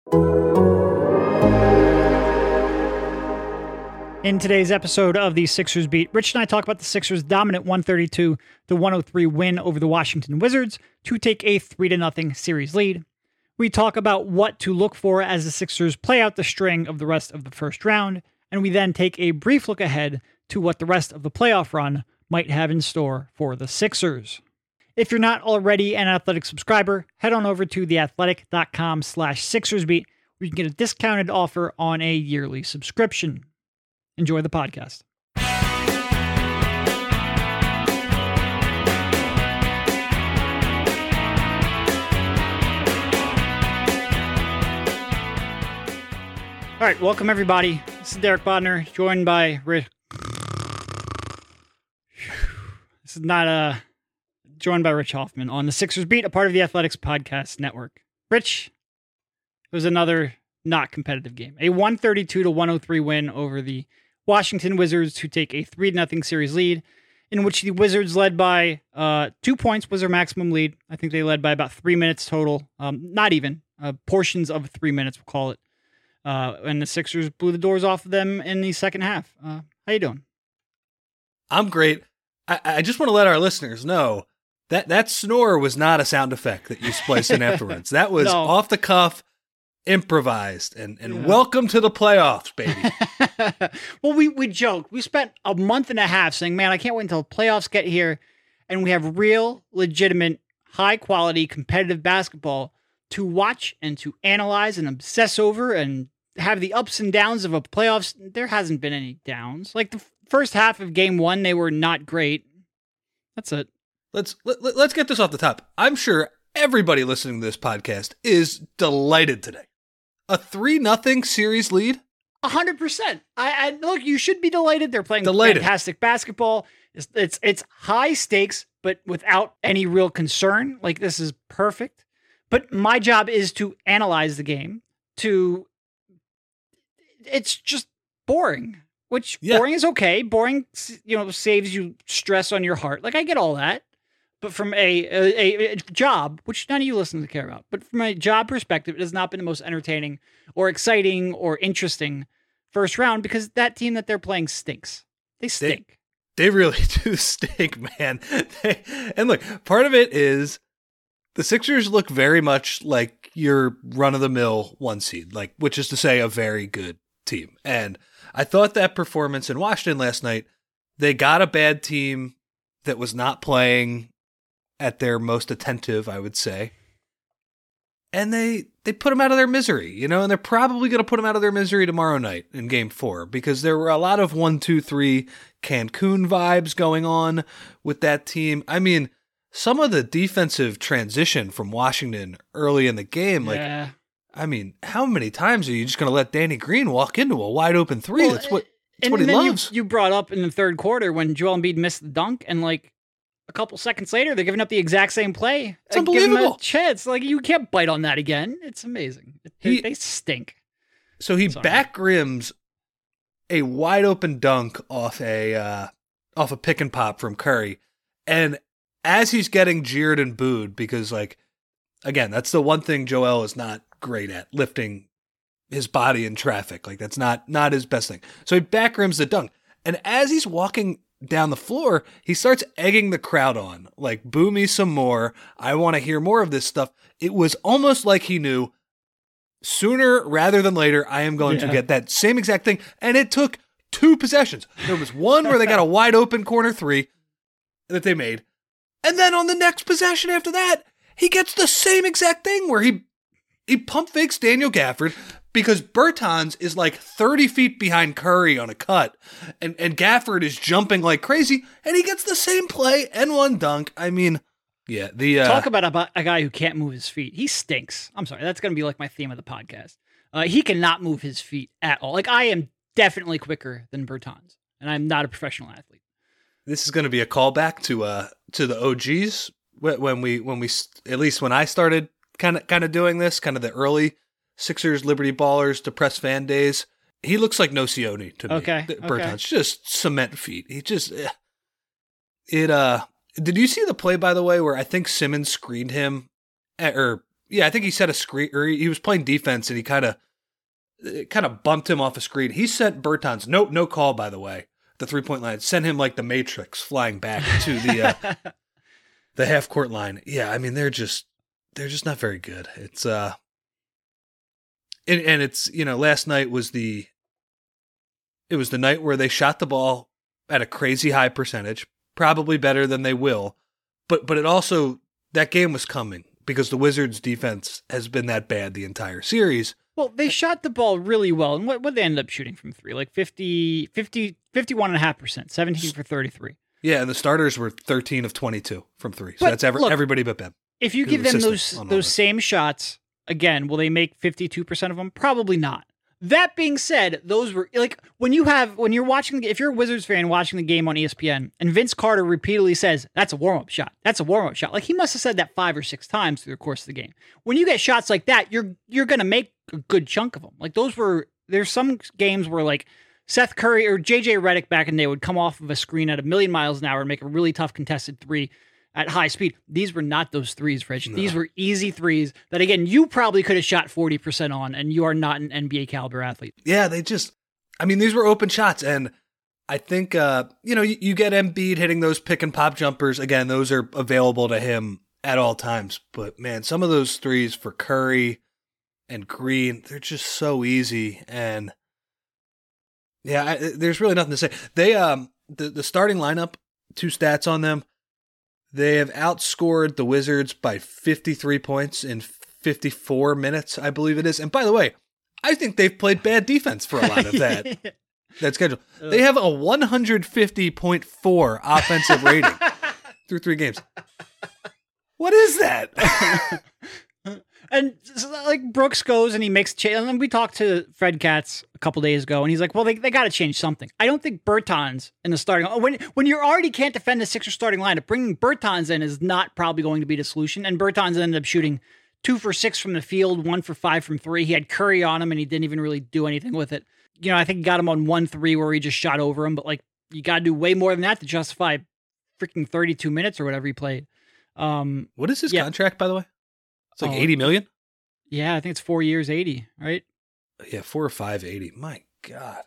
In today's episode of the Sixers Beat, Rich and I talk about the Sixers' dominant 132-103 win over the Washington Wizards to take a 3-0 series lead. We talk about what to look for as the Sixers play out the string of the rest of the first round, and we then take a brief look ahead to what the rest of the playoff run might have in store for the Sixers. If you're not already an Athletic subscriber, head on over to theathletic.com/SixersBeat, where you can get a discounted offer on a yearly subscription. Enjoy the podcast. All right, welcome everybody. This is Derek Bodner, joined by Rich. This is not joined by Rich Hoffman on the Sixers Beat, a part of the Athletics Podcast Network. Rich, it was another not competitive game. A 132-103 win over the Washington Wizards to take a 3-0 series lead, in which the Wizards led by 2 points was their maximum lead. I think they led by about 3 minutes total. Not even. Portions of 3 minutes, we'll call it. And the Sixers blew the doors off of them in the second half. How you doing? I'm great. I just want to let our listeners know that snore was not a sound effect that you spliced in afterwards. That was off the cuff, improvised, and welcome to the playoffs, baby. Well, we joked. We spent a month and a half saying, man, I can't wait until the playoffs get here, and we have real, legitimate, high-quality, competitive basketball to watch and to analyze and obsess over and have the ups and downs of a playoffs. There hasn't been any downs. Like the first half of game one, they were not great. That's it. Let's get this off the top. I'm sure everybody listening to this podcast is delighted today. A 3-0 series lead? 100%. I look, you should be delighted. They're playing fantastic basketball. It's high stakes, but without any real concern. Like, this is perfect. But my job is to analyze the game. It's just boring. Boring is okay. Boring, saves you stress on your heart. Like, I get all that. But from a job, which none of you listeners care about, but from a job perspective, it has not been the most entertaining or exciting or interesting first round because that team that they're playing stinks. They stink. They really do stink, man. And look, part of it is the Sixers look very much like your run-of-the-mill 1 seed, which is to say a very good team. And I thought that performance in Washington last night, they got a bad team that was not playing at their most attentive, I would say. And they put them out of their misery, and they're probably going to put them out of their misery tomorrow night in game 4 because there were a lot of 1-2-3 Cancun vibes going on with that team. I mean, some of the defensive transition from Washington early in the game, I mean, how many times are you just going to let Danny Green walk into a wide open three? That's what he loves. You brought up in the third quarter when Joel Embiid missed the dunk, and a couple seconds later, they're giving up the exact same play. It's unbelievable. Give him a chance. You can't bite on that again. It's amazing. They stink. So he back rims a wide open dunk off a pick and pop from Curry, and as he's getting jeered and booed because, again, that's the one thing Joel is not great at, lifting his body in traffic. That's not his best thing. So he back rims the dunk, and as he's walking down the floor, he starts egging the crowd on, boo me some more. I want to hear more of this stuff. It was almost like he knew sooner rather than later, I am going to get that same exact thing. And it took 2 possessions. There was one where they got a wide open corner 3 that they made. And then on the next possession after that, he gets the same exact thing where he pump fakes Daniel Gafford, because Bertans is 30 feet behind Curry on a cut, and Gafford is jumping like crazy, and he gets the same play and one dunk. I mean, talk about a guy who can't move his feet. He stinks. I'm sorry, that's going to be my theme of the podcast. He cannot move his feet at all. I am definitely quicker than Bertans, and I'm not a professional athlete. This is going to be a callback to the OGs when we at least when I started kind of doing this, kind of the early Sixers, Liberty Ballers, depressed fan days. He looks like Nocioni to me. Okay. Bertans, just cement feet. He just Did you see the play, by the way, where I think Simmons screened him, or Yeah, I think he set a screen, or he was playing defense, and he kind of bumped him off a screen. He sent Bertans, no call, by the way, the 3-point line, sent him like the Matrix flying back to the half court line. Yeah, I mean, they're just not very good. It's and it's, last night was the night where they shot the ball at a crazy high percentage, probably better than they will, but it also, that game was coming because the Wizards defense has been that bad the entire series. Well, they shot the ball really well. And what they ended up shooting from three? Like 51.5%, 17 for 33. Yeah, and the starters were 13 of 22 from three. So that's everybody but Ben. If you give them those same shots, again, will they make 52% of them? Probably not. That being said, those were like when you're watching, if you're a Wizards fan watching the game on ESPN and Vince Carter repeatedly says, that's a warm-up shot. That's a warm-up shot. Like he must have said that 5 or 6 times through the course of the game. When you get shots like that, you're going to make a good chunk of them. Like there's some games where like Seth Curry or JJ Redick back in the day would come off of a screen at 1,000,000 miles an hour and make a really tough contested three at high speed. These were not those threes, Rich. No. These were easy threes that, again, you probably could have shot 40% on, and you are not an NBA caliber athlete. Yeah, these were open shots. And I think, you get Embiid hitting those pick and pop jumpers. Again, those are available to him at all times. But man, some of those threes for Curry and Green, they're just so easy. And yeah, there's really nothing to say. They, the starting lineup, 2 stats on them. They have outscored the Wizards by 53 points in 54 minutes, I believe it is. And by the way, I think they've played bad defense for a lot of that schedule. They have a 150.4 offensive rating through 3 games. What is that? And so, like Brooks goes and he makes change. And we talked to Fred Katz a couple days ago, and he's like, "Well, they got to change something." I don't think Bertans in the starting when you already can't defend the Sixers starting lineup, bringing Bertans in is not probably going to be the solution. And Bertans ended up shooting 2 for 6 from the field, 1 for 5 from 3. He had Curry on him, and he didn't even really do anything with it. I think he got him on 1-3 where he just shot over him, but like you got to do way more than that to justify freaking 32 minutes or whatever he played. What is his contract, by the way? It's like $80 million? Yeah, I think it's 4 years, 80, right? Yeah, 4 or 5, 80. My God.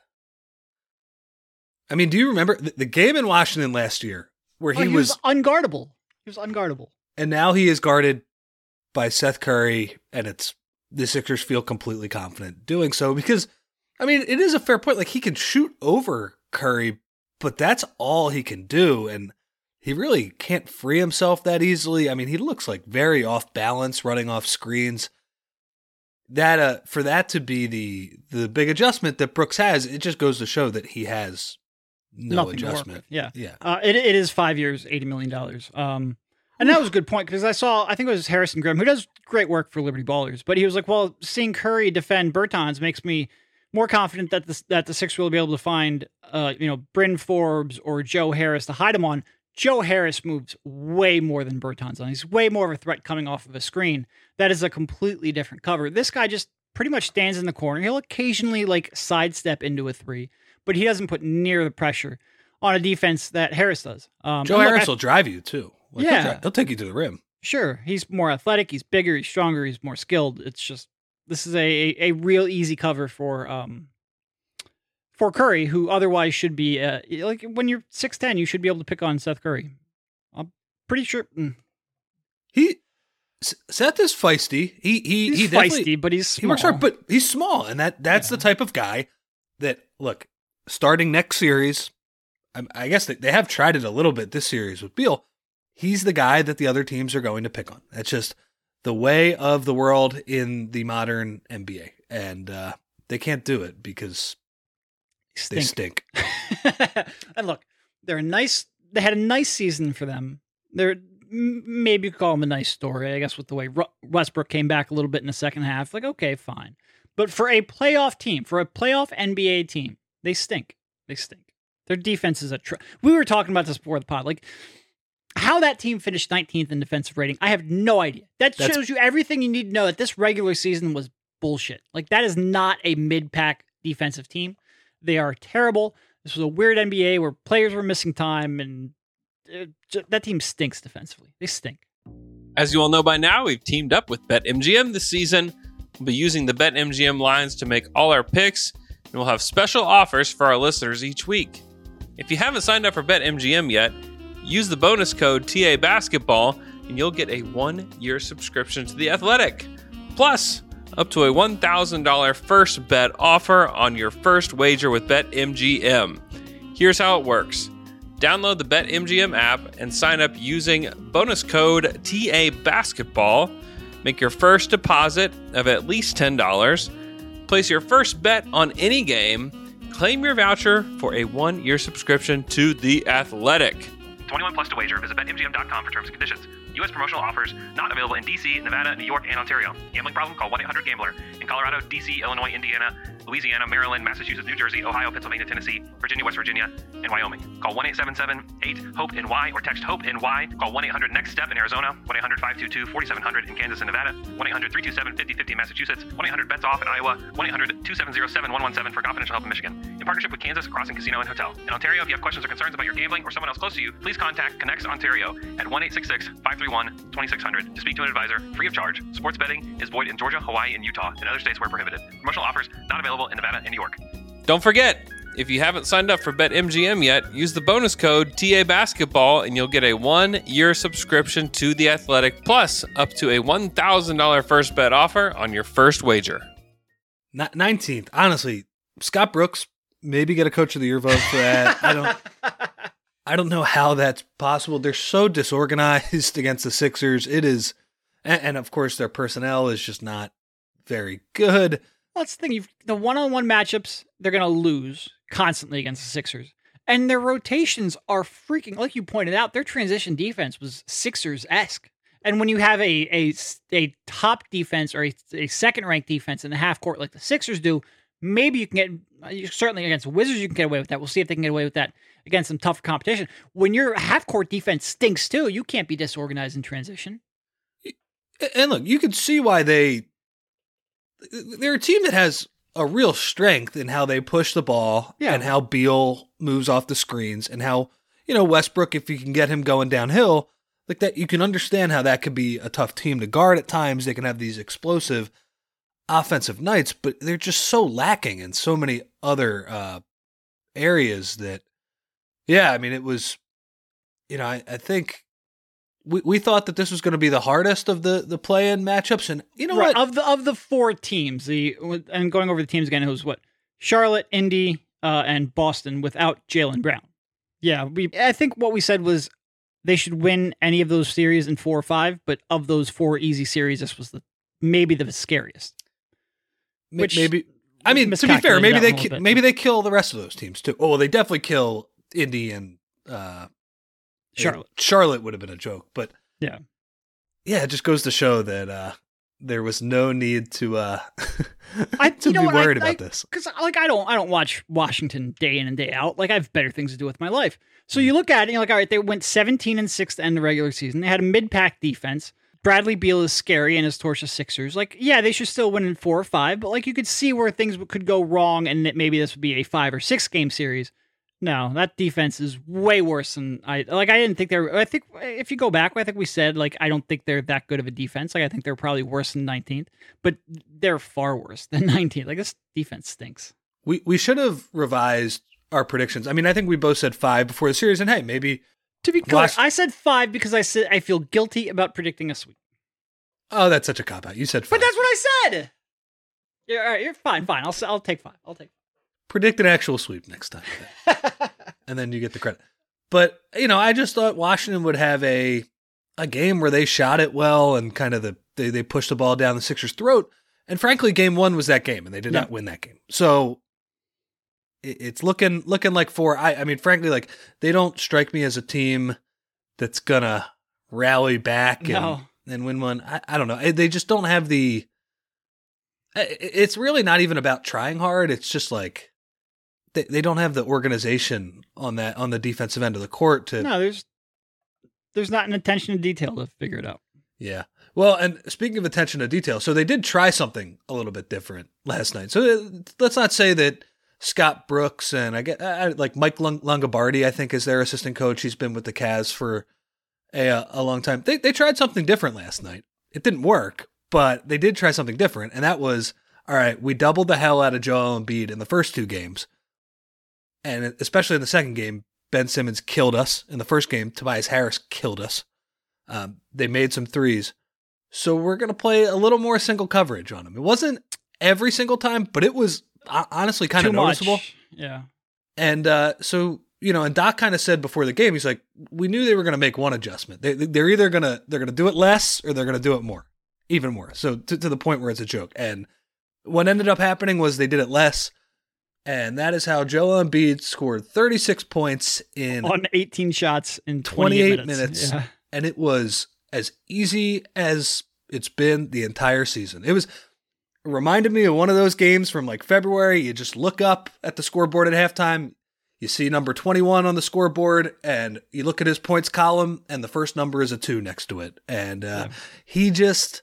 I mean, do you remember the game in Washington last year where he was unguardable? He was unguardable. And now he is guarded by Seth Curry, and the Sixers feel completely confident doing so because, I mean, it is a fair point. Like, he can shoot over Curry, but that's all he can do, and he really can't free himself that easily. I mean, he looks like very off balance running off screens. That for that to be the big adjustment that Brooks has, it just goes to show that he has nothing adjustment. Yeah. It is 5 years, $80 million. And that was a good point because I think it was Harrison Grimm, who does great work for Liberty Ballers, but he was like, well, seeing Curry defend Bertans makes me more confident that the Sixers will be able to find, Bryn Forbes or Joe Harris to hide him on. Joe Harris moves way more than Bertans on. He's way more of a threat coming off of a screen. That is a completely different cover. This guy just pretty much stands in the corner. He'll occasionally sidestep into a 3, but he doesn't put near the pressure on a defense that Harris does. Joe Harris will drive you too. He'll take you to the rim. Sure. He's more athletic. He's bigger. He's stronger. He's more skilled. It's just, this is a real easy cover for Curry, who otherwise should be when you're 6'10", you should be able to pick on Seth Curry. I'm pretty sure. Seth is feisty. He's feisty, but he's small. He works hard, but he's small, and that's the type of guy that, look, starting next series, I guess they have tried it a little bit this series with Beal. He's the guy that the other teams are going to pick on. That's just the way of the world in the modern NBA, and they can't do it because they stink. And look, they're nice. They had a nice season for them. They're maybe you could call them a nice story, I guess, with the way Westbrook came back a little bit in the second half. Like, okay, fine. But for a playoff team, for a playoff NBA team, they stink. They stink. Their defense is we were talking about this before the pod. Like, how that team finished 19th in defensive rating, I have no idea. That shows you everything you need to know that this regular season was bullshit. Like, that is not a mid-pack defensive team. They are terrible. This was a weird NBA where players were missing time, and that team stinks defensively. They stink. As you all know by now, we've teamed up with BetMGM this season. We'll be using the BetMGM lines to make all our picks, and we'll have special offers for our listeners each week. If you haven't signed up for BetMGM yet, use the bonus code TA Basketball, and you'll get a 1-year subscription to The Athletic. Plus, up to a $1,000 first bet offer on your first wager with BetMGM. Here's how it works. Download the BetMGM app and sign up using bonus code TA Basketball. Make your first deposit of at least $10. Place your first bet on any game. Claim your voucher for a 1-year subscription to The Athletic. 21 plus to wager. Visit BetMGM.com for terms and conditions. U.S. promotional offers not available in D.C., Nevada, New York, and Ontario. Gambling problem? Call 1-800-GAMBLER. In Colorado, D.C., Illinois, Indiana, Louisiana, Maryland, Massachusetts, New Jersey, Ohio, Pennsylvania, Tennessee, Virginia, West Virginia, and Wyoming. Call 1-877-8-HOPE-NY or text HOPE-NY. Call 1-800-NEXT-STEP in Arizona, 1-800-522-4700 in Kansas and Nevada, 1-800-327-5050 in Massachusetts, 1-800-BETS-OFF in Iowa, 1-800-270-7117 for confidential help in Michigan. In partnership with Kansas Crossing Casino and Hotel. In Ontario, if you have questions or concerns about your gambling or someone else close to you, please contact Connects Ontario at 1-866-531-2600 to speak to an advisor free of charge. Sports betting is void in Georgia, Hawaii, and Utah, and other states where prohibited. Promotional offers not available in Nevada and New York. Don't forget, if you haven't signed up for BetMGM yet, use the bonus code TA Basketball and you'll get a 1-year subscription to The Athletic, plus up to a $1,000 first bet offer on your first wager. 19th. Honestly, Scott Brooks, maybe get a Coach of the Year vote for that. I don't know how that's possible. They're so disorganized against the Sixers. It is, and of course their personnel is just not very good. Well, that's the thing. The one-on-one matchups, they're going to lose constantly against the Sixers. And their rotations are freaking, like you pointed out, their transition defense was Sixers-esque. And when you have a top defense or a second-ranked defense in the half court like the Sixers do, maybe you can get, certainly against the Wizards you can get away with that. We'll see if they can get away with that against some tougher competition. When your half-court defense stinks too, you can't be disorganized in transition. And look, you can see why they're a team that has a real strength in how they push the ball and how Beal moves off the screens and how, Westbrook, if you can get him going downhill, like that, you can understand how that could be a tough team to guard at times. They can have these explosive offensive nights, but they're just so lacking in so many other areas that, it was, I think we thought that this was going to be the hardest of the play-in matchups, and what? Of the four teams, and going over the teams again, it was what? Charlotte, Indy, and Boston without Jaylen Brown. Yeah, I think what we said was they should win any of those series in 4 or 5, but of those 4 easy series, this was maybe the scariest. Maybe, to be fair, maybe they kill the rest of those teams too. Oh, well, they definitely kill Indy and Charlotte. Charlotte would have been a joke, but yeah, it just goes to show that there was no need to be worried about this. Because I don't watch Washington day in and day out. Like I have better things to do with my life. So you look at it and you're like, all right, they went 17-6 to end the regular season. They had a mid-pack defense. Bradley Beal is scary and his torch Sixers. Like, yeah, they should still win in 4 or 5, but like you could see where things could go wrong and that maybe this would be a 5 or 6 game series. No, that defense is way worse than I didn't think I think if you go back, I think we said, like, I don't think they're that good of a defense. Like, I think they're probably worse than 19th, but they're far worse than 19th. Like, this defense stinks. We should have revised our predictions. I mean, I think we both said 5 before the series, and hey, maybe. To be clear, I said 5 because I feel guilty about predicting a sweep. Oh, that's such a cop-out. You said 5. But that's what I said! Yeah, all right, you're fine. I'll take 5. Predict an actual sweep next time. And then you get the credit. But, I just thought Washington would have a game where they shot it well and kind of they pushed the ball down the Sixers' throat. And frankly, game 1 was that game, and they did not win that game. So it's looking like 4. I mean, frankly, like, they don't strike me as a team that's going to rally back and win one. I don't know. They just don't have the... It's really not even about trying hard. It's just like... They don't have the organization on the defensive end of the court to. No, there's not an attention to detail to figure it out. Yeah. Well, and speaking of attention to detail, so they did try something a little bit different last night. So let's not say that Scott Brooks and I get like Mike Longobardi, I think, is their assistant coach. He's been with the Cavs for a long time. They tried something different last night. It didn't work, but they did try something different, and that was, all right, we doubled the hell out of Joel Embiid in the first 2 games, and especially in the second game, Ben Simmons killed us. In the first game, Tobias Harris killed us. They made some threes, so we're going to play a little more single coverage on him. It wasn't every single time, but it was honestly kind of noticeable. Yeah. And so, and Doc kind of said before the game, he's like, we knew they were going to make one adjustment. They're either going to do it less or they're going to do it more, even more. So to the point where it's a joke. And what ended up happening was they did it less. And that is how Joel Embiid scored 36 points on 18 shots in 28 minutes. Yeah. And it was as easy as it's been the entire season. It reminded me of one of those games from like February. You just look up at the scoreboard at halftime. You see number 21 on the scoreboard, and you look at his points column, and the first number is a 2 next to it. And he just,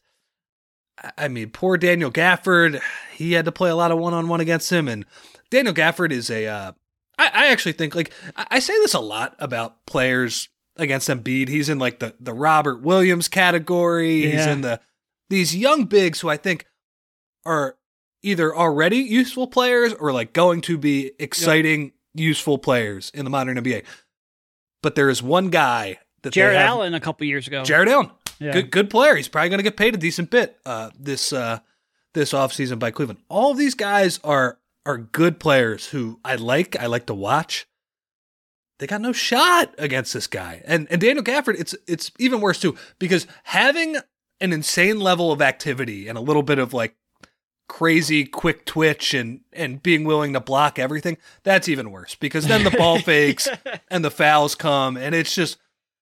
poor Daniel Gafford, he had to play a lot of one-on-one against him. And Daniel Gafford is I actually think, like, I say this a lot about players against Embiid. He's in like the Robert Williams category. Yeah. He's in these young bigs who I think are either already useful players or like going to be exciting, useful players in the modern NBA. But there is one guy that Jared Allen a couple years ago. Jared Allen, good player. He's probably going to get paid a decent bit this offseason by Cleveland. All of these guys are good players who I like to watch. They got no shot against this guy. And Daniel Gafford, it's even worse too, because having an insane level of activity and a little bit of like crazy quick twitch and being willing to block everything, that's even worse, because then the ball fakes and the fouls come, and it's just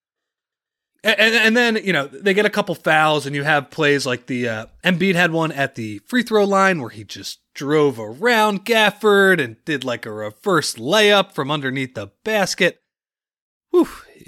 and then they get a couple fouls, and you have plays like the Embiid had one at the free throw line where he just drove around Gafford and did like a reverse layup from underneath the basket. Whew,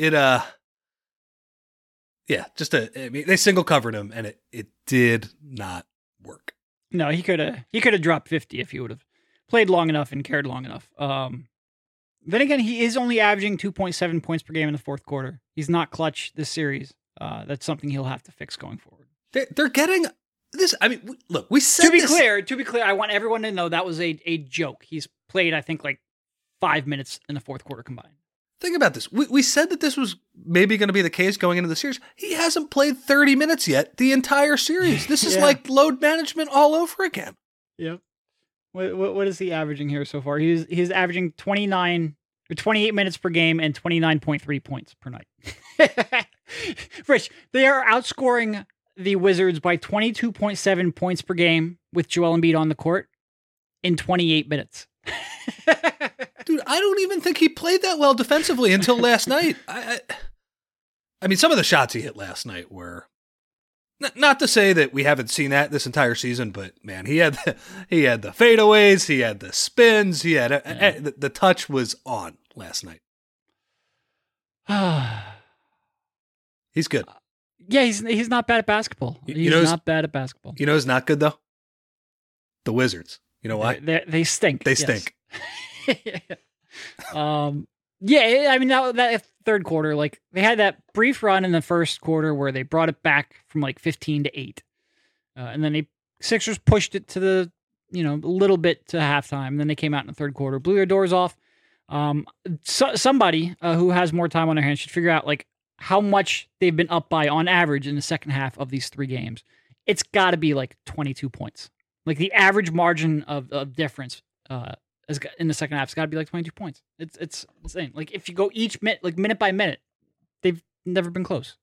they single covered him, and it did not work. No, he could have dropped 50 if he would have played long enough and cared long enough. Then again, he is only averaging 2.7 points per game in the fourth quarter. He's not clutch this series. That's something he'll have to fix going forward. They're getting this. Look, we said to be clear, I want everyone to know that was a joke. He's played, I think, like 5 minutes in the fourth quarter combined. Think about this. We said that this was maybe going to be the case going into the series. He hasn't played 30 minutes yet the entire series. This is like load management all over again. Yep. What is he averaging here so far? He's averaging 28 minutes per game and 29.3 points per night. Rich, they are outscoring the Wizards by 22.7 points per game with Joel Embiid on the court in 28 minutes. Dude, I don't even think he played that well defensively until last night. Some of the shots he hit last night were not to say that we haven't seen that this entire season, but man, he had the fadeaways, he had the spins, he had the touch was on last night. He's good. Yeah, he's not bad at basketball. He's not bad at basketball. You know who's not good though? The Wizards. You know why? They stink. They stink. That third quarter, like they had that brief run in the first quarter where they brought it back from like 15-8, and then Sixers pushed it to the a little bit to halftime. And then they came out in the third quarter, blew their doors off. Somebody who has more time on their hands should figure out like how much they've been up by on average in the second half of these 3 games. It's got to be like 22 points. Like the average margin of difference in the second half, it's got to be like 22 points. It's insane. Like if you go each minute by minute, they've never been close.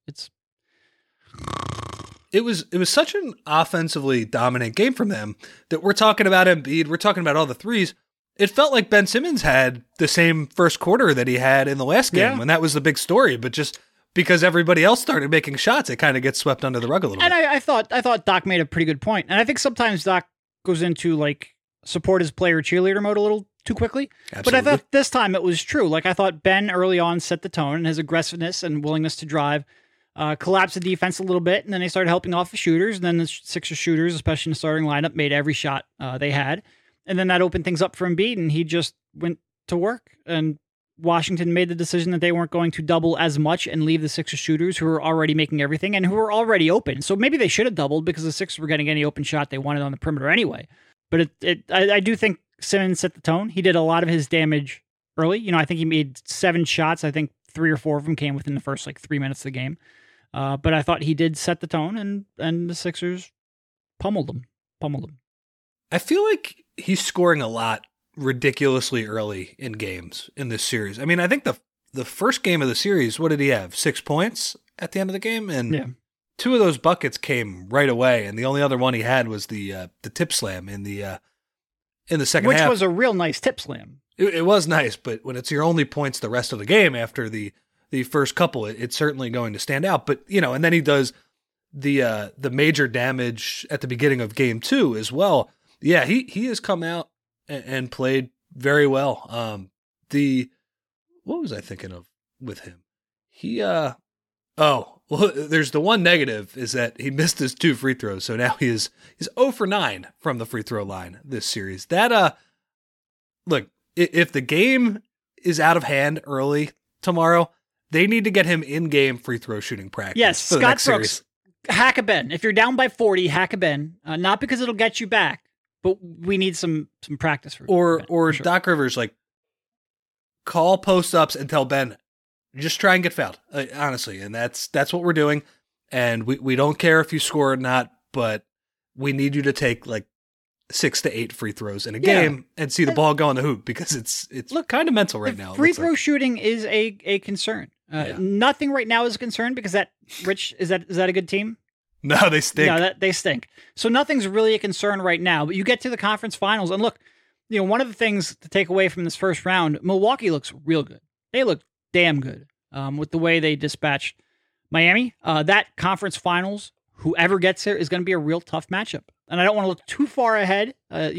It was such an offensively dominant game from them that we're talking about Embiid, we're talking about all the threes. It felt like Ben Simmons had the same first quarter that he had in the last game, and that was the big story. But just because everybody else started making shots, it kind of gets swept under the rug a little bit. And I thought Doc made a pretty good point. And I think sometimes Doc goes into like support his player cheerleader mode a little too quickly. Absolutely. But I thought this time it was true. Like I thought Ben early on set the tone, and his aggressiveness and willingness to drive collapsed the defense a little bit, and then they started helping off the shooters, and then the Sixers shooters, especially in the starting lineup, made every shot they had. And then that opened things up for Embiid, and he just went to work. And Washington made the decision that they weren't going to double as much and leave the Sixers shooters who were already making everything and who were already open. So maybe they should have doubled because the Sixers were getting any open shot they wanted on the perimeter anyway. But I do think Simmons set the tone. He did a lot of his damage early. I think he made 7 shots. I think 3 or 4 of them came within the first 3 minutes of the game. But I thought he did set the tone, and the Sixers pummeled him. I feel like he's scoring a lot ridiculously early in games in this series. I mean, I think the first game of the series, what did he have? 6 points at the end of the game? And 2 of those buckets came right away, and the only other one he had was the tip slam in the second half. Which was a real nice tip slam. It was nice, but when it's your only points the rest of the game after the first couple, it's certainly going to stand out. But, and then he does the major damage at the beginning of game 2 as well. Yeah, he has come out and played very well. What was I thinking of with him? There's the one negative is that he missed his 2 free throws. So now he's 0 for 9 from the free throw line this series. Look, if the game is out of hand early tomorrow, they need to get him in-game free throw shooting practice. Yes, Scott Brooks, hack a Ben. If you're down by 40, hack a Ben. Not because it'll get you back, but we need some practice for or Ben, or for sure. Doc Rivers, call post-ups and tell Ben, just try and get fouled, honestly. And that's what we're doing. And we don't care if you score or not, but we need you to take 6 to 8 free throws in a game and see the ball go in the hoop because it's kind of mental right now. Free throw shooting is a concern. Nothing right now is a concern because is that a good team? No, they stink. No, they stink. So nothing's really a concern right now, but you get to the conference finals and look, one of the things to take away from this first round, Milwaukee looks real good. They look damn good with the way they dispatched Miami. That conference finals, whoever gets there is going to be a real tough matchup. And I don't want to look too far ahead. I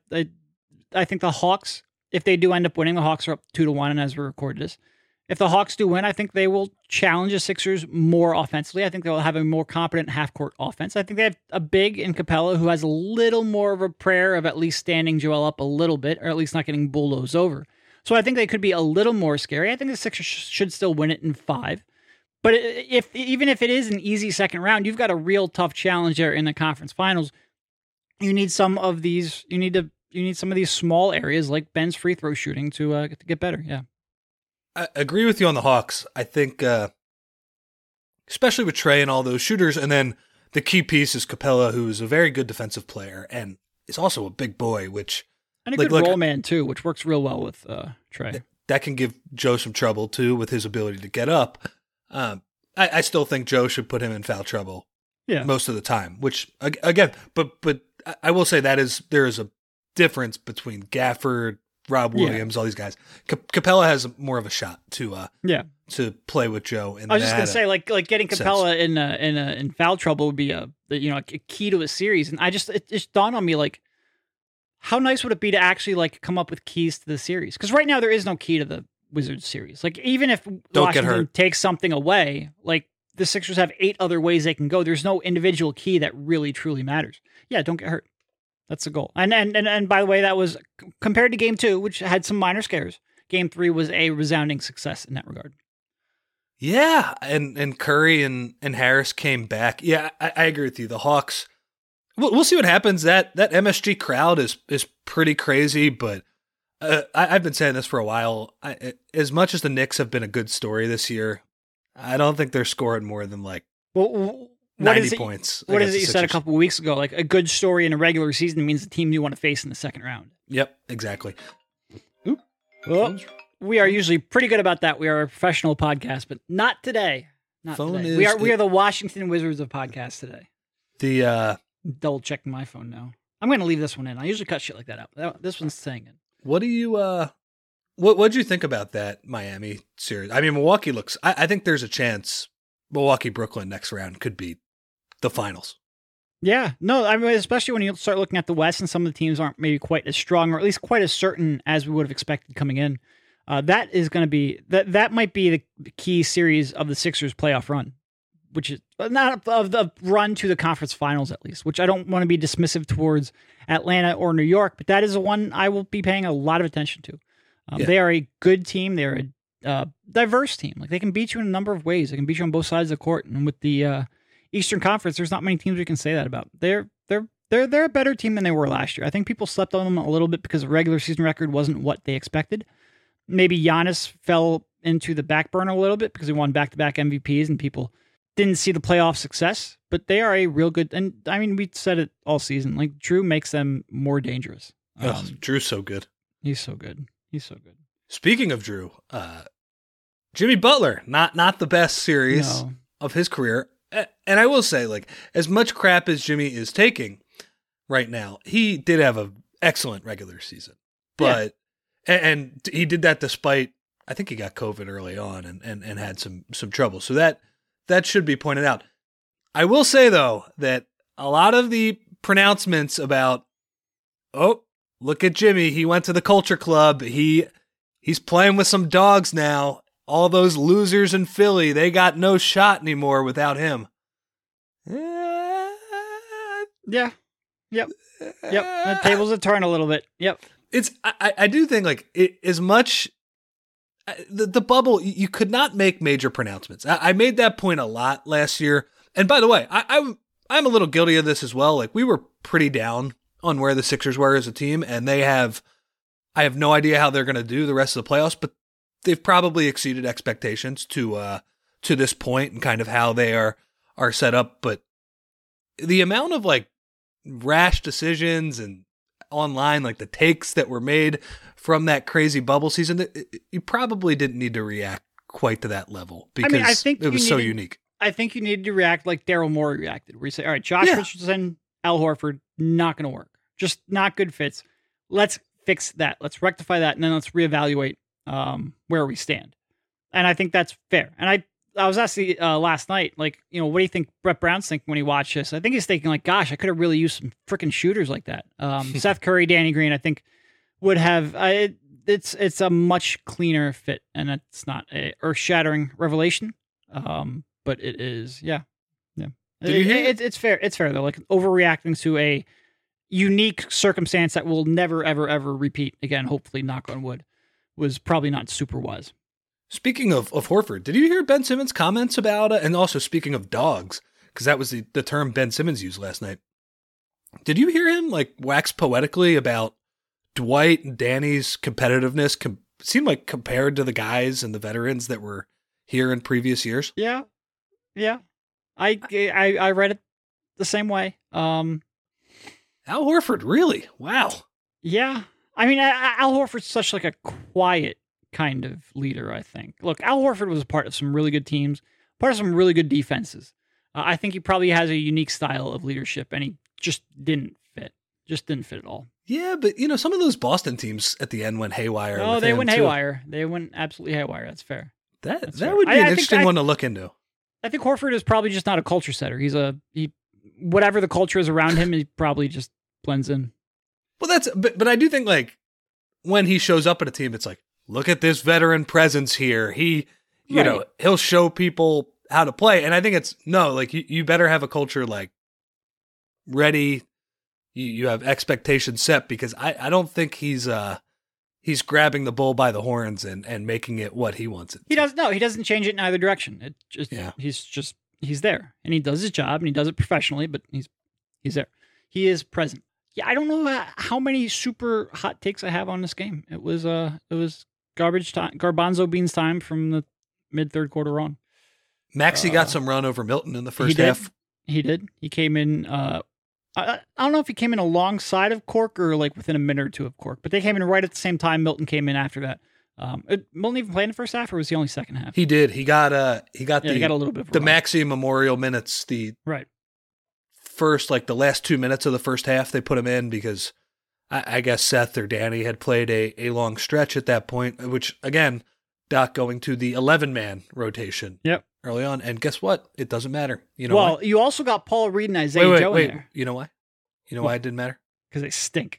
think the Hawks, if they do end up winning, the Hawks are up 2-1, and as we recorded this, if the Hawks do win, I think they will challenge the Sixers more offensively. I think they will have a more competent half-court offense. I think they have a big in Capella who has a little more of a prayer of at least standing Joel up a little bit, or at least not getting bulldozed over. So I think they could be a little more scary. I think the Sixers should still win it in 5. But even if it is an easy second round, you've got a real tough challenge there in the conference finals. You need some of these. You need some of these small areas like Ben's free throw shooting to get better. Yeah. I agree with you on the Hawks. I think, especially with Trey and all those shooters, and then the key piece is Capella, who's a very good defensive player and is also a big boy, and a good roll man too, which works real well with Trey. That can give Joe some trouble too with his ability to get up. I still think Joe should put him in foul trouble most of the time. Which again, but I will say there is a difference between Gafford, Rob Williams, all these guys. Capella has more of a shot to play with Joe. I was just gonna say, like getting Capella in foul trouble would be a key to a series. And it just dawned on me how nice would it be to actually come up with keys to the series? Because right now there is no key to the Wizards series. Even if Washington takes something away, the Sixers have 8 other ways they can go. There's no individual key that really truly matters. Yeah, don't get hurt. That's the goal. And by the way, that was compared to game 2, which had some minor scares. Game 3 was a resounding success in that regard. Yeah, and Curry and Harris came back. Yeah, I agree with you. The Hawks, we'll see what happens. That MSG crowd is pretty crazy, but I've been saying this for a while. As much as the Knicks have been a good story this year, I don't think they're scoring more than 90 points. What is it you said a couple of weeks ago? A good story in a regular season means the team you want to face in the second round. Yep, exactly. Oop. Well, we are usually pretty good about that. We are a professional podcast, but not today. We are the Washington Wizards of podcasts today. Double checking my phone now. I'm going to leave this one in. I usually cut shit like that out. This one's staying in. What do you what'd you think about that Miami series? I mean, Milwaukee looks. I think there's a chance Milwaukee-Brooklyn next round could be the finals. Yeah, no, I mean, especially when you start looking at the West and some of the teams aren't maybe quite as strong or at least quite as certain as we would have expected coming in. That is going to be that might be the key series of the Sixers playoff run, which is not of the run to the conference finals at least, which I don't want to be dismissive towards Atlanta or New York, but that is the one I will be paying a lot of attention to. They are a good team. They're a diverse team. Like they can beat you in a number of ways. They can beat you on both sides of the court. And with the Eastern Conference, there's not many teams we can say that about. They're a better team than they were last year. I think people slept on them a little bit because the regular season record wasn't what they expected. Maybe Giannis fell into the back burner a little bit because he won back-to-back MVPs and people didn't see the playoff success. But they are a real good, and I mean, we said it all season. Like Drew makes them more dangerous. Drew's so good. He's so good. He's so good. Speaking of Drew, Jimmy Butler, not the best series of his career. And I will say, like, as much crap as Jimmy is taking right now, he did have an excellent regular season. But and he did that despite, I think he got COVID early on and had some trouble. So that should be pointed out. I will say, though, that a lot of the pronouncements about, oh, look at Jimmy, he went to the culture club, he's playing with some dogs now. All those losers in Philly, they got no shot anymore without him. Yeah. Yep. The tables have turned a little bit. Yep. I do think, like, as much the bubble, you could not make major pronouncements. I made that point a lot last year. And by the way, I'm a little guilty of this as well. Like, we were pretty down on where the Sixers were as a team, and I have no idea how they're going to do the rest of the playoffs, but they've probably exceeded expectations to this point and kind of how they are set up. But the amount of, like, rash decisions and online, like the takes that were made from that crazy bubble season, you probably didn't need to react quite to that level because I think it was so unique. I think you needed to react like Daryl Morey reacted, where you say, all right, Josh Richardson, Al Horford, not going to work. Just not good fits. Let's fix that. Let's rectify that. And then let's reevaluate where we stand. And I think that's fair. And I was asking last night, like, you know, what do you think Brett Brown's thinking when he watched this? I think he's thinking, like, gosh, I could have really used some freaking shooters like that. Seth Curry, Danny Green, I think would have. It's a much cleaner fit, and it's not a earth-shattering revelation. But it is, yeah. It's fair. It's fair though. Like overreacting to a unique circumstance that will never, ever, ever repeat again. Hopefully, knock on wood, was probably not super wise. Speaking of Horford, did you hear Ben Simmons' comments about it? And also speaking of dogs, because that was the term Ben Simmons used last night. Did you hear him like wax poetically about Dwight and Danny's competitiveness? Seemed like compared to the guys and the veterans that were here in previous years. Yeah. I read it the same way. Al Horford, really? Wow. Yeah. I mean, Al Horford's such like a quiet kind of leader, I think. Look, Al Horford was a part of some really good teams, part of some really good defenses. I think he probably has a unique style of leadership, and he just didn't fit. Just didn't fit at all. Yeah, but, you know, some of those Boston teams at the end went haywire. Oh, they went haywire. They went absolutely haywire. That's fair. That would be an interesting one to look into. I think Horford is probably just not a culture setter. He whatever the culture is around him, he probably just blends in. Well, but I do think, like, when he shows up at a team, it's like, look at this veteran presence here. He, you know, he'll show people how to play. And I think you better have a culture like ready. You have expectations set, because I don't think he's grabbing the bull by the horns and making it what he wants it to. He doesn't change it in either direction. It just, he's there and he does his job and he does it professionally, but he's there. He is present. Yeah. I don't know how many super hot takes I have on this game. It was garbage time, garbanzo beans time from the mid third quarter on. Maxey got some run over Milton in the first half. He did. He came in, I don't know if he came in alongside of Cork or like within a minute or two of Cork, but they came in right at the same time. Milton came in after that. Milton even played in the first half, or was he only second half? He did. He got a little bit of the run. Maxey Memorial minutes. First, like the last 2 minutes of the first half, they put him in because I guess Seth or Danny had played a long stretch at that point, which again, Doc going to the 11-man rotation. Yep. Early on, and guess what? It doesn't matter. You know why? You also got Paul Reed and Isaiah Joe in there. You know why? You know why it didn't matter? Because they stink.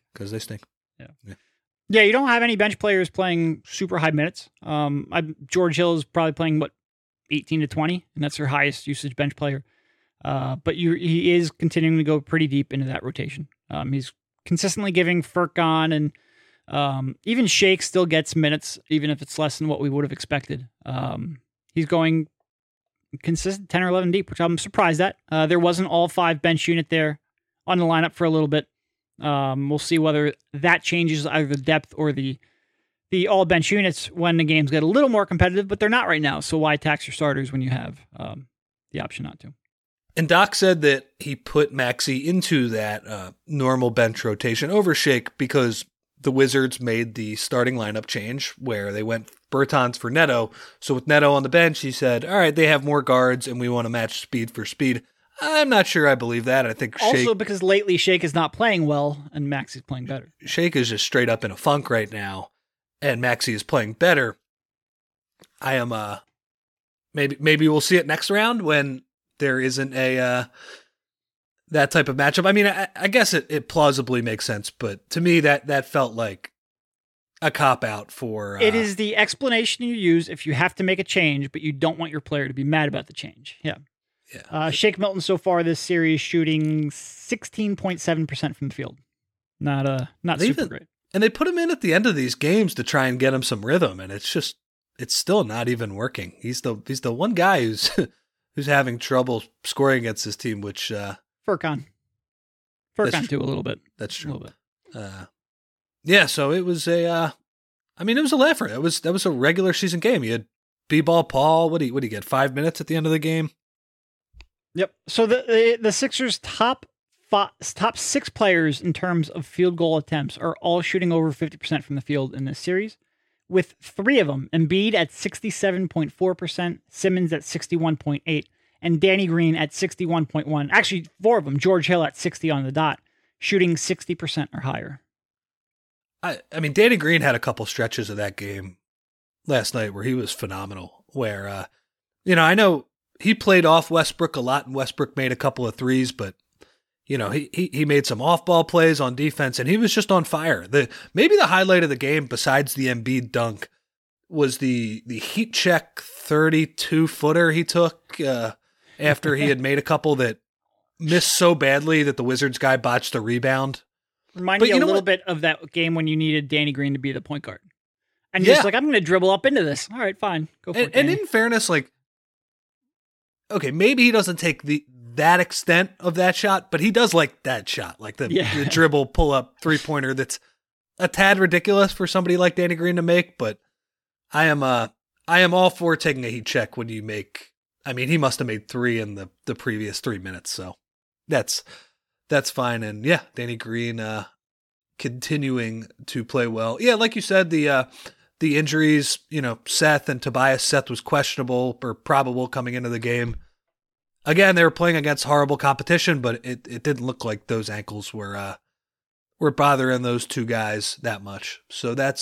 Yeah, you don't have any bench players playing super high minutes. George Hill is probably playing 18 to 20, and that's their highest usage bench player. But he is continuing to go pretty deep into that rotation. He's consistently giving Furkan and Even Shake still gets minutes, even if it's less than what we would have expected. He's going consistent 10 or 11 deep, which I'm surprised at. There wasn't all 5 bench unit there on the lineup for a little bit. We'll see whether that changes either the depth or the all bench units when the games get a little more competitive, but they're not right now. So why tax your starters when you have the option not to? And Doc said that he put Maxey into that normal bench rotation over Shake because the Wizards made the starting lineup change where they went Bertans for Neto. So with Neto on the bench, he said, all right, they have more guards and we want to match speed for speed. I'm not sure I believe that. I think also because lately Shake is not playing well and Maxey's playing better. Shake is just straight up in a funk right now and Maxey is playing better. I am maybe we'll see it next round when there isn't a that type of matchup. I mean, I guess it plausibly makes sense, but to me that felt like a cop out for. It is the explanation you use if you have to make a change, but you don't want your player to be mad about the change. Yeah. Yeah. Shake Milton so far this series shooting 16.7% from the field. Not super great. And they put him in at the end of these games to try and get him some rhythm, and it's still not even working. He's the one guy who's having trouble scoring against his team, which Furkan too a little bit. That's true. A little bit. Yeah, so it was it was a laugher. That was a regular season game. You had B-ball Paul. What do you get? 5 minutes at the end of the game. Yep. So the Sixers' top 6 players in terms of field goal attempts are all shooting over 50% from the field in this series, with 3 of them, Embiid at 67.4%, Simmons at 61.8%, and Danny Green at 61.1%. Actually, 4 of them, George Hill at 60 on the dot, shooting 60% or higher. I mean, Danny Green had a couple stretches of that game last night where he was phenomenal, where, I know he played off Westbrook a lot and Westbrook made a couple of threes, but he made some off-ball plays on defense, and he was just on fire. Maybe the highlight of the game, besides the Embiid dunk, was the heat check 32-footer he took after he had made a couple that missed so badly that the Wizards guy botched the rebound. Reminded me a little bit of that game when you needed Danny Green to be the point guard. And you're just like, I'm going to dribble up into this. All right, fine. Go for it, and in fairness, like, okay, maybe he doesn't take that extent of that shot, but he does like that shot, like the dribble pull-up three-pointer that's a tad ridiculous for somebody like Danny Green to make, but I am all for taking a heat check when you make, I mean, he must have made 3 in the previous 3 minutes, so that's fine. And yeah, Danny Green continuing to play well. Yeah, like you said, the injuries, Seth and Tobias. Seth was questionable or probable coming into the game. Again, they were playing against horrible competition, but it didn't look like those ankles were bothering those 2 guys that much. So that's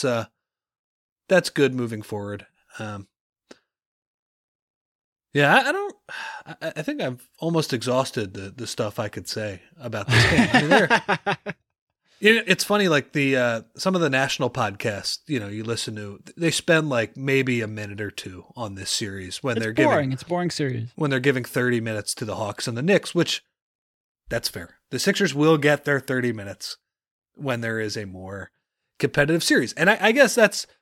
good moving forward. Yeah, I think I've almost exhausted the stuff I could say about this game. I mean, it's funny, like some of the national podcasts, you listen to, they spend like maybe a minute or 2 on this series when it's a boring series. When they're giving 30 minutes to the Hawks and the Knicks, which that's fair. The Sixers will get their 30 minutes when there is a more competitive series. And I guess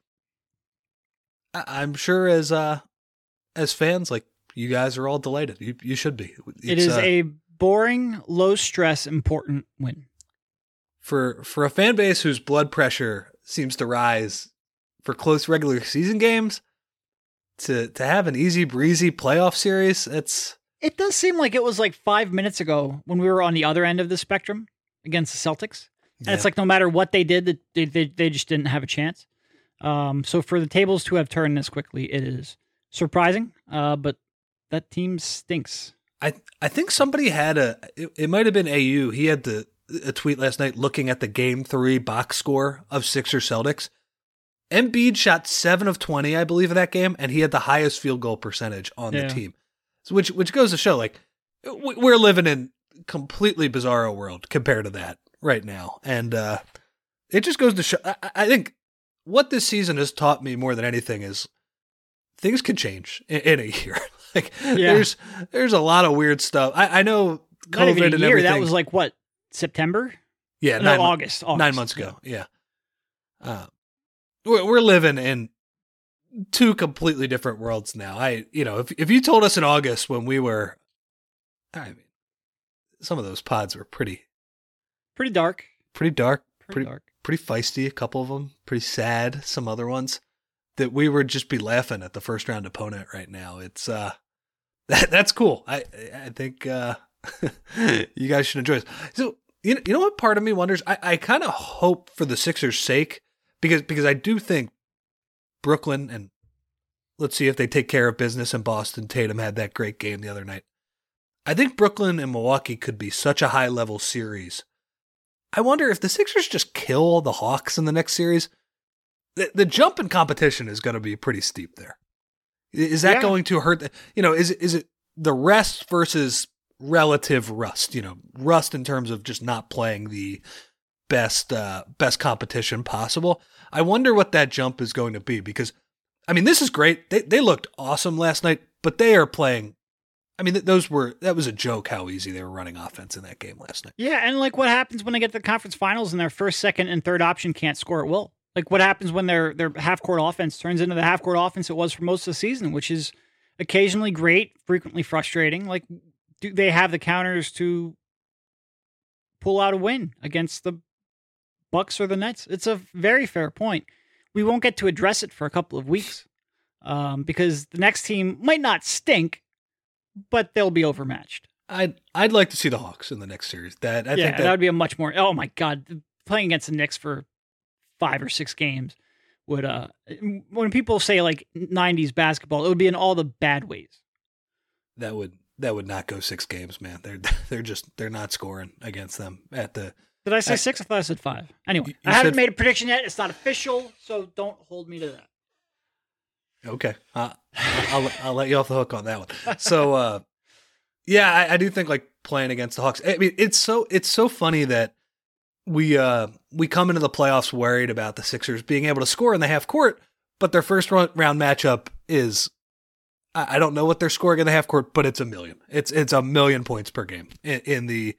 I'm sure as fans, like, you guys are all delighted. You should be. It is a boring, low stress, important win. For a fan base whose blood pressure seems to rise for close regular season games, to have an easy breezy playoff series, it does seem like it was like 5 minutes ago when we were on the other end of the spectrum against the Celtics. And it's like no matter what they did, they just didn't have a chance. So for the tables to have turned this quickly, it is surprising, but that team stinks. I think somebody had it might have been AU. He had a tweet last night looking at the game 3 box score of Sixers Celtics. Embiid shot 7 of 20, I believe, in that game, and he had the highest field goal percentage on the team. So which goes to show, like, we're living in completely bizarro world compared to that right now. And it just goes to show, I think what this season has taught me more than anything is things can change in a year. Like, there's a lot of weird stuff. I know COVID not even a and year. everything. That was like what, September? Yeah, no, August. 9 months ago. Yeah. we're living in two completely different worlds now. If you told us in August when we were, I mean, some of those pods were pretty dark, pretty feisty. A couple of them pretty sad. Some other ones that we would just be laughing at the first round opponent right now. It's that's cool. I think you guys should enjoy this. So you know what part of me wonders? I kind of hope for the Sixers' sake because I do think Brooklyn, and let's see if they take care of business in Boston. Tatum had that great game the other night. I think Brooklyn and Milwaukee could be such a high-level series. I wonder if the Sixers just kill the Hawks in the next series, the jump in competition is going to be pretty steep there. Is that going to hurt? Is it the rest versus relative rust? Rust in terms of just not playing the best competition possible. I wonder what that jump is going to be because, I mean, this is great. They looked awesome last night, but they are playing. I mean, that was a joke how easy they were running offense in that game last night. Yeah, and like what happens when they get to the conference finals and their first, second, and third option can't score at will? Like what happens when their half-court offense turns into the half-court offense it was for most of the season, which is occasionally great, frequently frustrating. Like, do they have the counters to pull out a win against the Bucks or the Nets? It's a very fair point. We won't get to address it for a couple of weeks because the next team might not stink, but they'll be overmatched. I'd like to see the Hawks in the next series. I think that would be a much more. Oh my God, playing against the Knicks for 5 or 6 games would. When people say like '90s basketball, it would be in all the bad ways. That would not go 6 games, man. They're not scoring against them at the. Did I say 6? I thought I said 5. Anyway, I haven't made a prediction yet. It's not official, so don't hold me to that. Okay, I'll let you off the hook on that one. So, yeah, I do think like playing against the Hawks. I mean, it's so funny that we come into the playoffs worried about the Sixers being able to score in the half court, but their first round matchup is I don't know what they're scoring in the half court, but it's 1 million. It's 1 million points per game in the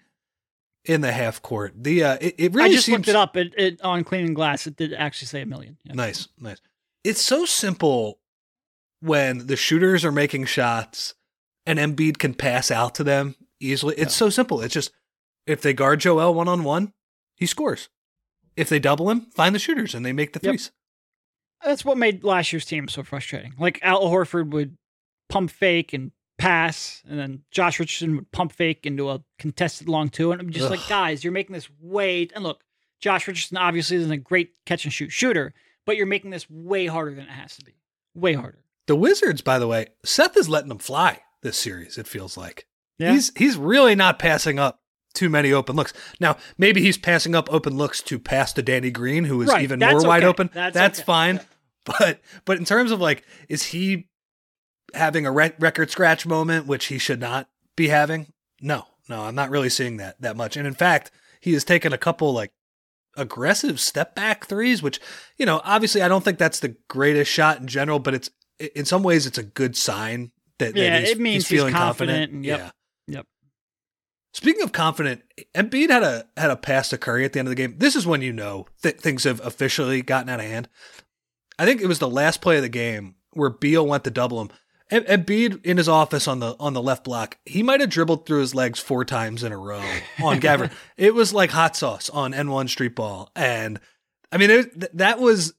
half court. It really I just seems, looked it up. It on Cleaning Glass. It did actually say 1 million. Yeah. Nice. It's so simple when the shooters are making shots and Embiid can pass out to them easily. It's so simple. It's just if they guard Joel one-on-one, he scores. If they double him, find the shooters and they make the threes. That's what made last year's team so frustrating. Like Al Horford would pump fake and pass, and then Josh Richardson would pump fake into a contested long 2. And I'm just like, guys, you're making this way. And look, Josh Richardson obviously isn't a great catch and shoot shooter, but you're making this way harder than it has to be. Way harder. The Wizards, by the way, Seth is letting them fly this series, it feels like. Yeah. He's really not passing up too many open looks. Now, maybe he's passing up open looks to pass to Danny Green, who is even more wide open. That's fine. But in terms of like, is he having a record scratch moment, which he should not be having? No, I'm not really seeing that much. And in fact, he has taken a couple like aggressive step back threes, which, obviously I don't think that's the greatest shot in general, but it's, in some ways it's a good sign that it means he's feeling confident. confident. Yep. Speaking of confident, Embiid had a pass to Curry at the end of the game. This is when things have officially gotten out of hand. I think it was the last play of the game where Beal went to double him. Embiid in his office on the left block, he might have dribbled through his legs 4 times in a row on Gafford. It was like hot sauce on N1 Street Ball, and I mean that was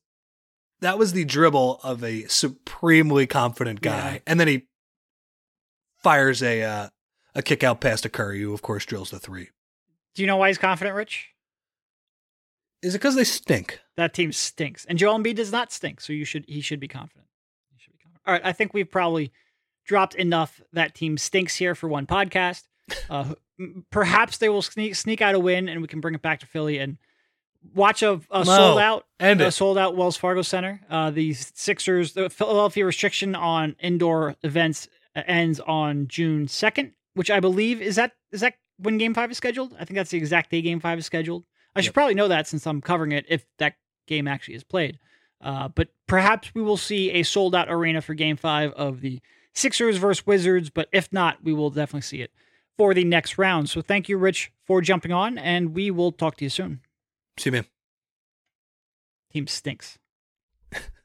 the dribble of a supremely confident guy, Yeah. and then he fires a kick out pass to Curry, who of course drills the 3. Do you know why he's confident, Rich? Is it because they stink? That team stinks, and Joel Embiid does not stink, so he should be confident. All right, I think we've probably dropped enough that team stinks here for one podcast. Perhaps they will sneak out a win, and we can bring it back to Philly and watch a sold out Wells Fargo Center. The Sixers, the Philadelphia restriction on indoor events ends on June 2nd, which I believe is that when Game 5 is scheduled. I think that's the exact day Game 5 is scheduled. I should probably know that since I'm covering it if that game actually is played. But perhaps we will see a sold-out arena for Game 5 of the Sixers versus Wizards, but if not, we will definitely see it for the next round. So thank you, Rich, for jumping on, and we will talk to you soon. See you, man. Team stinks.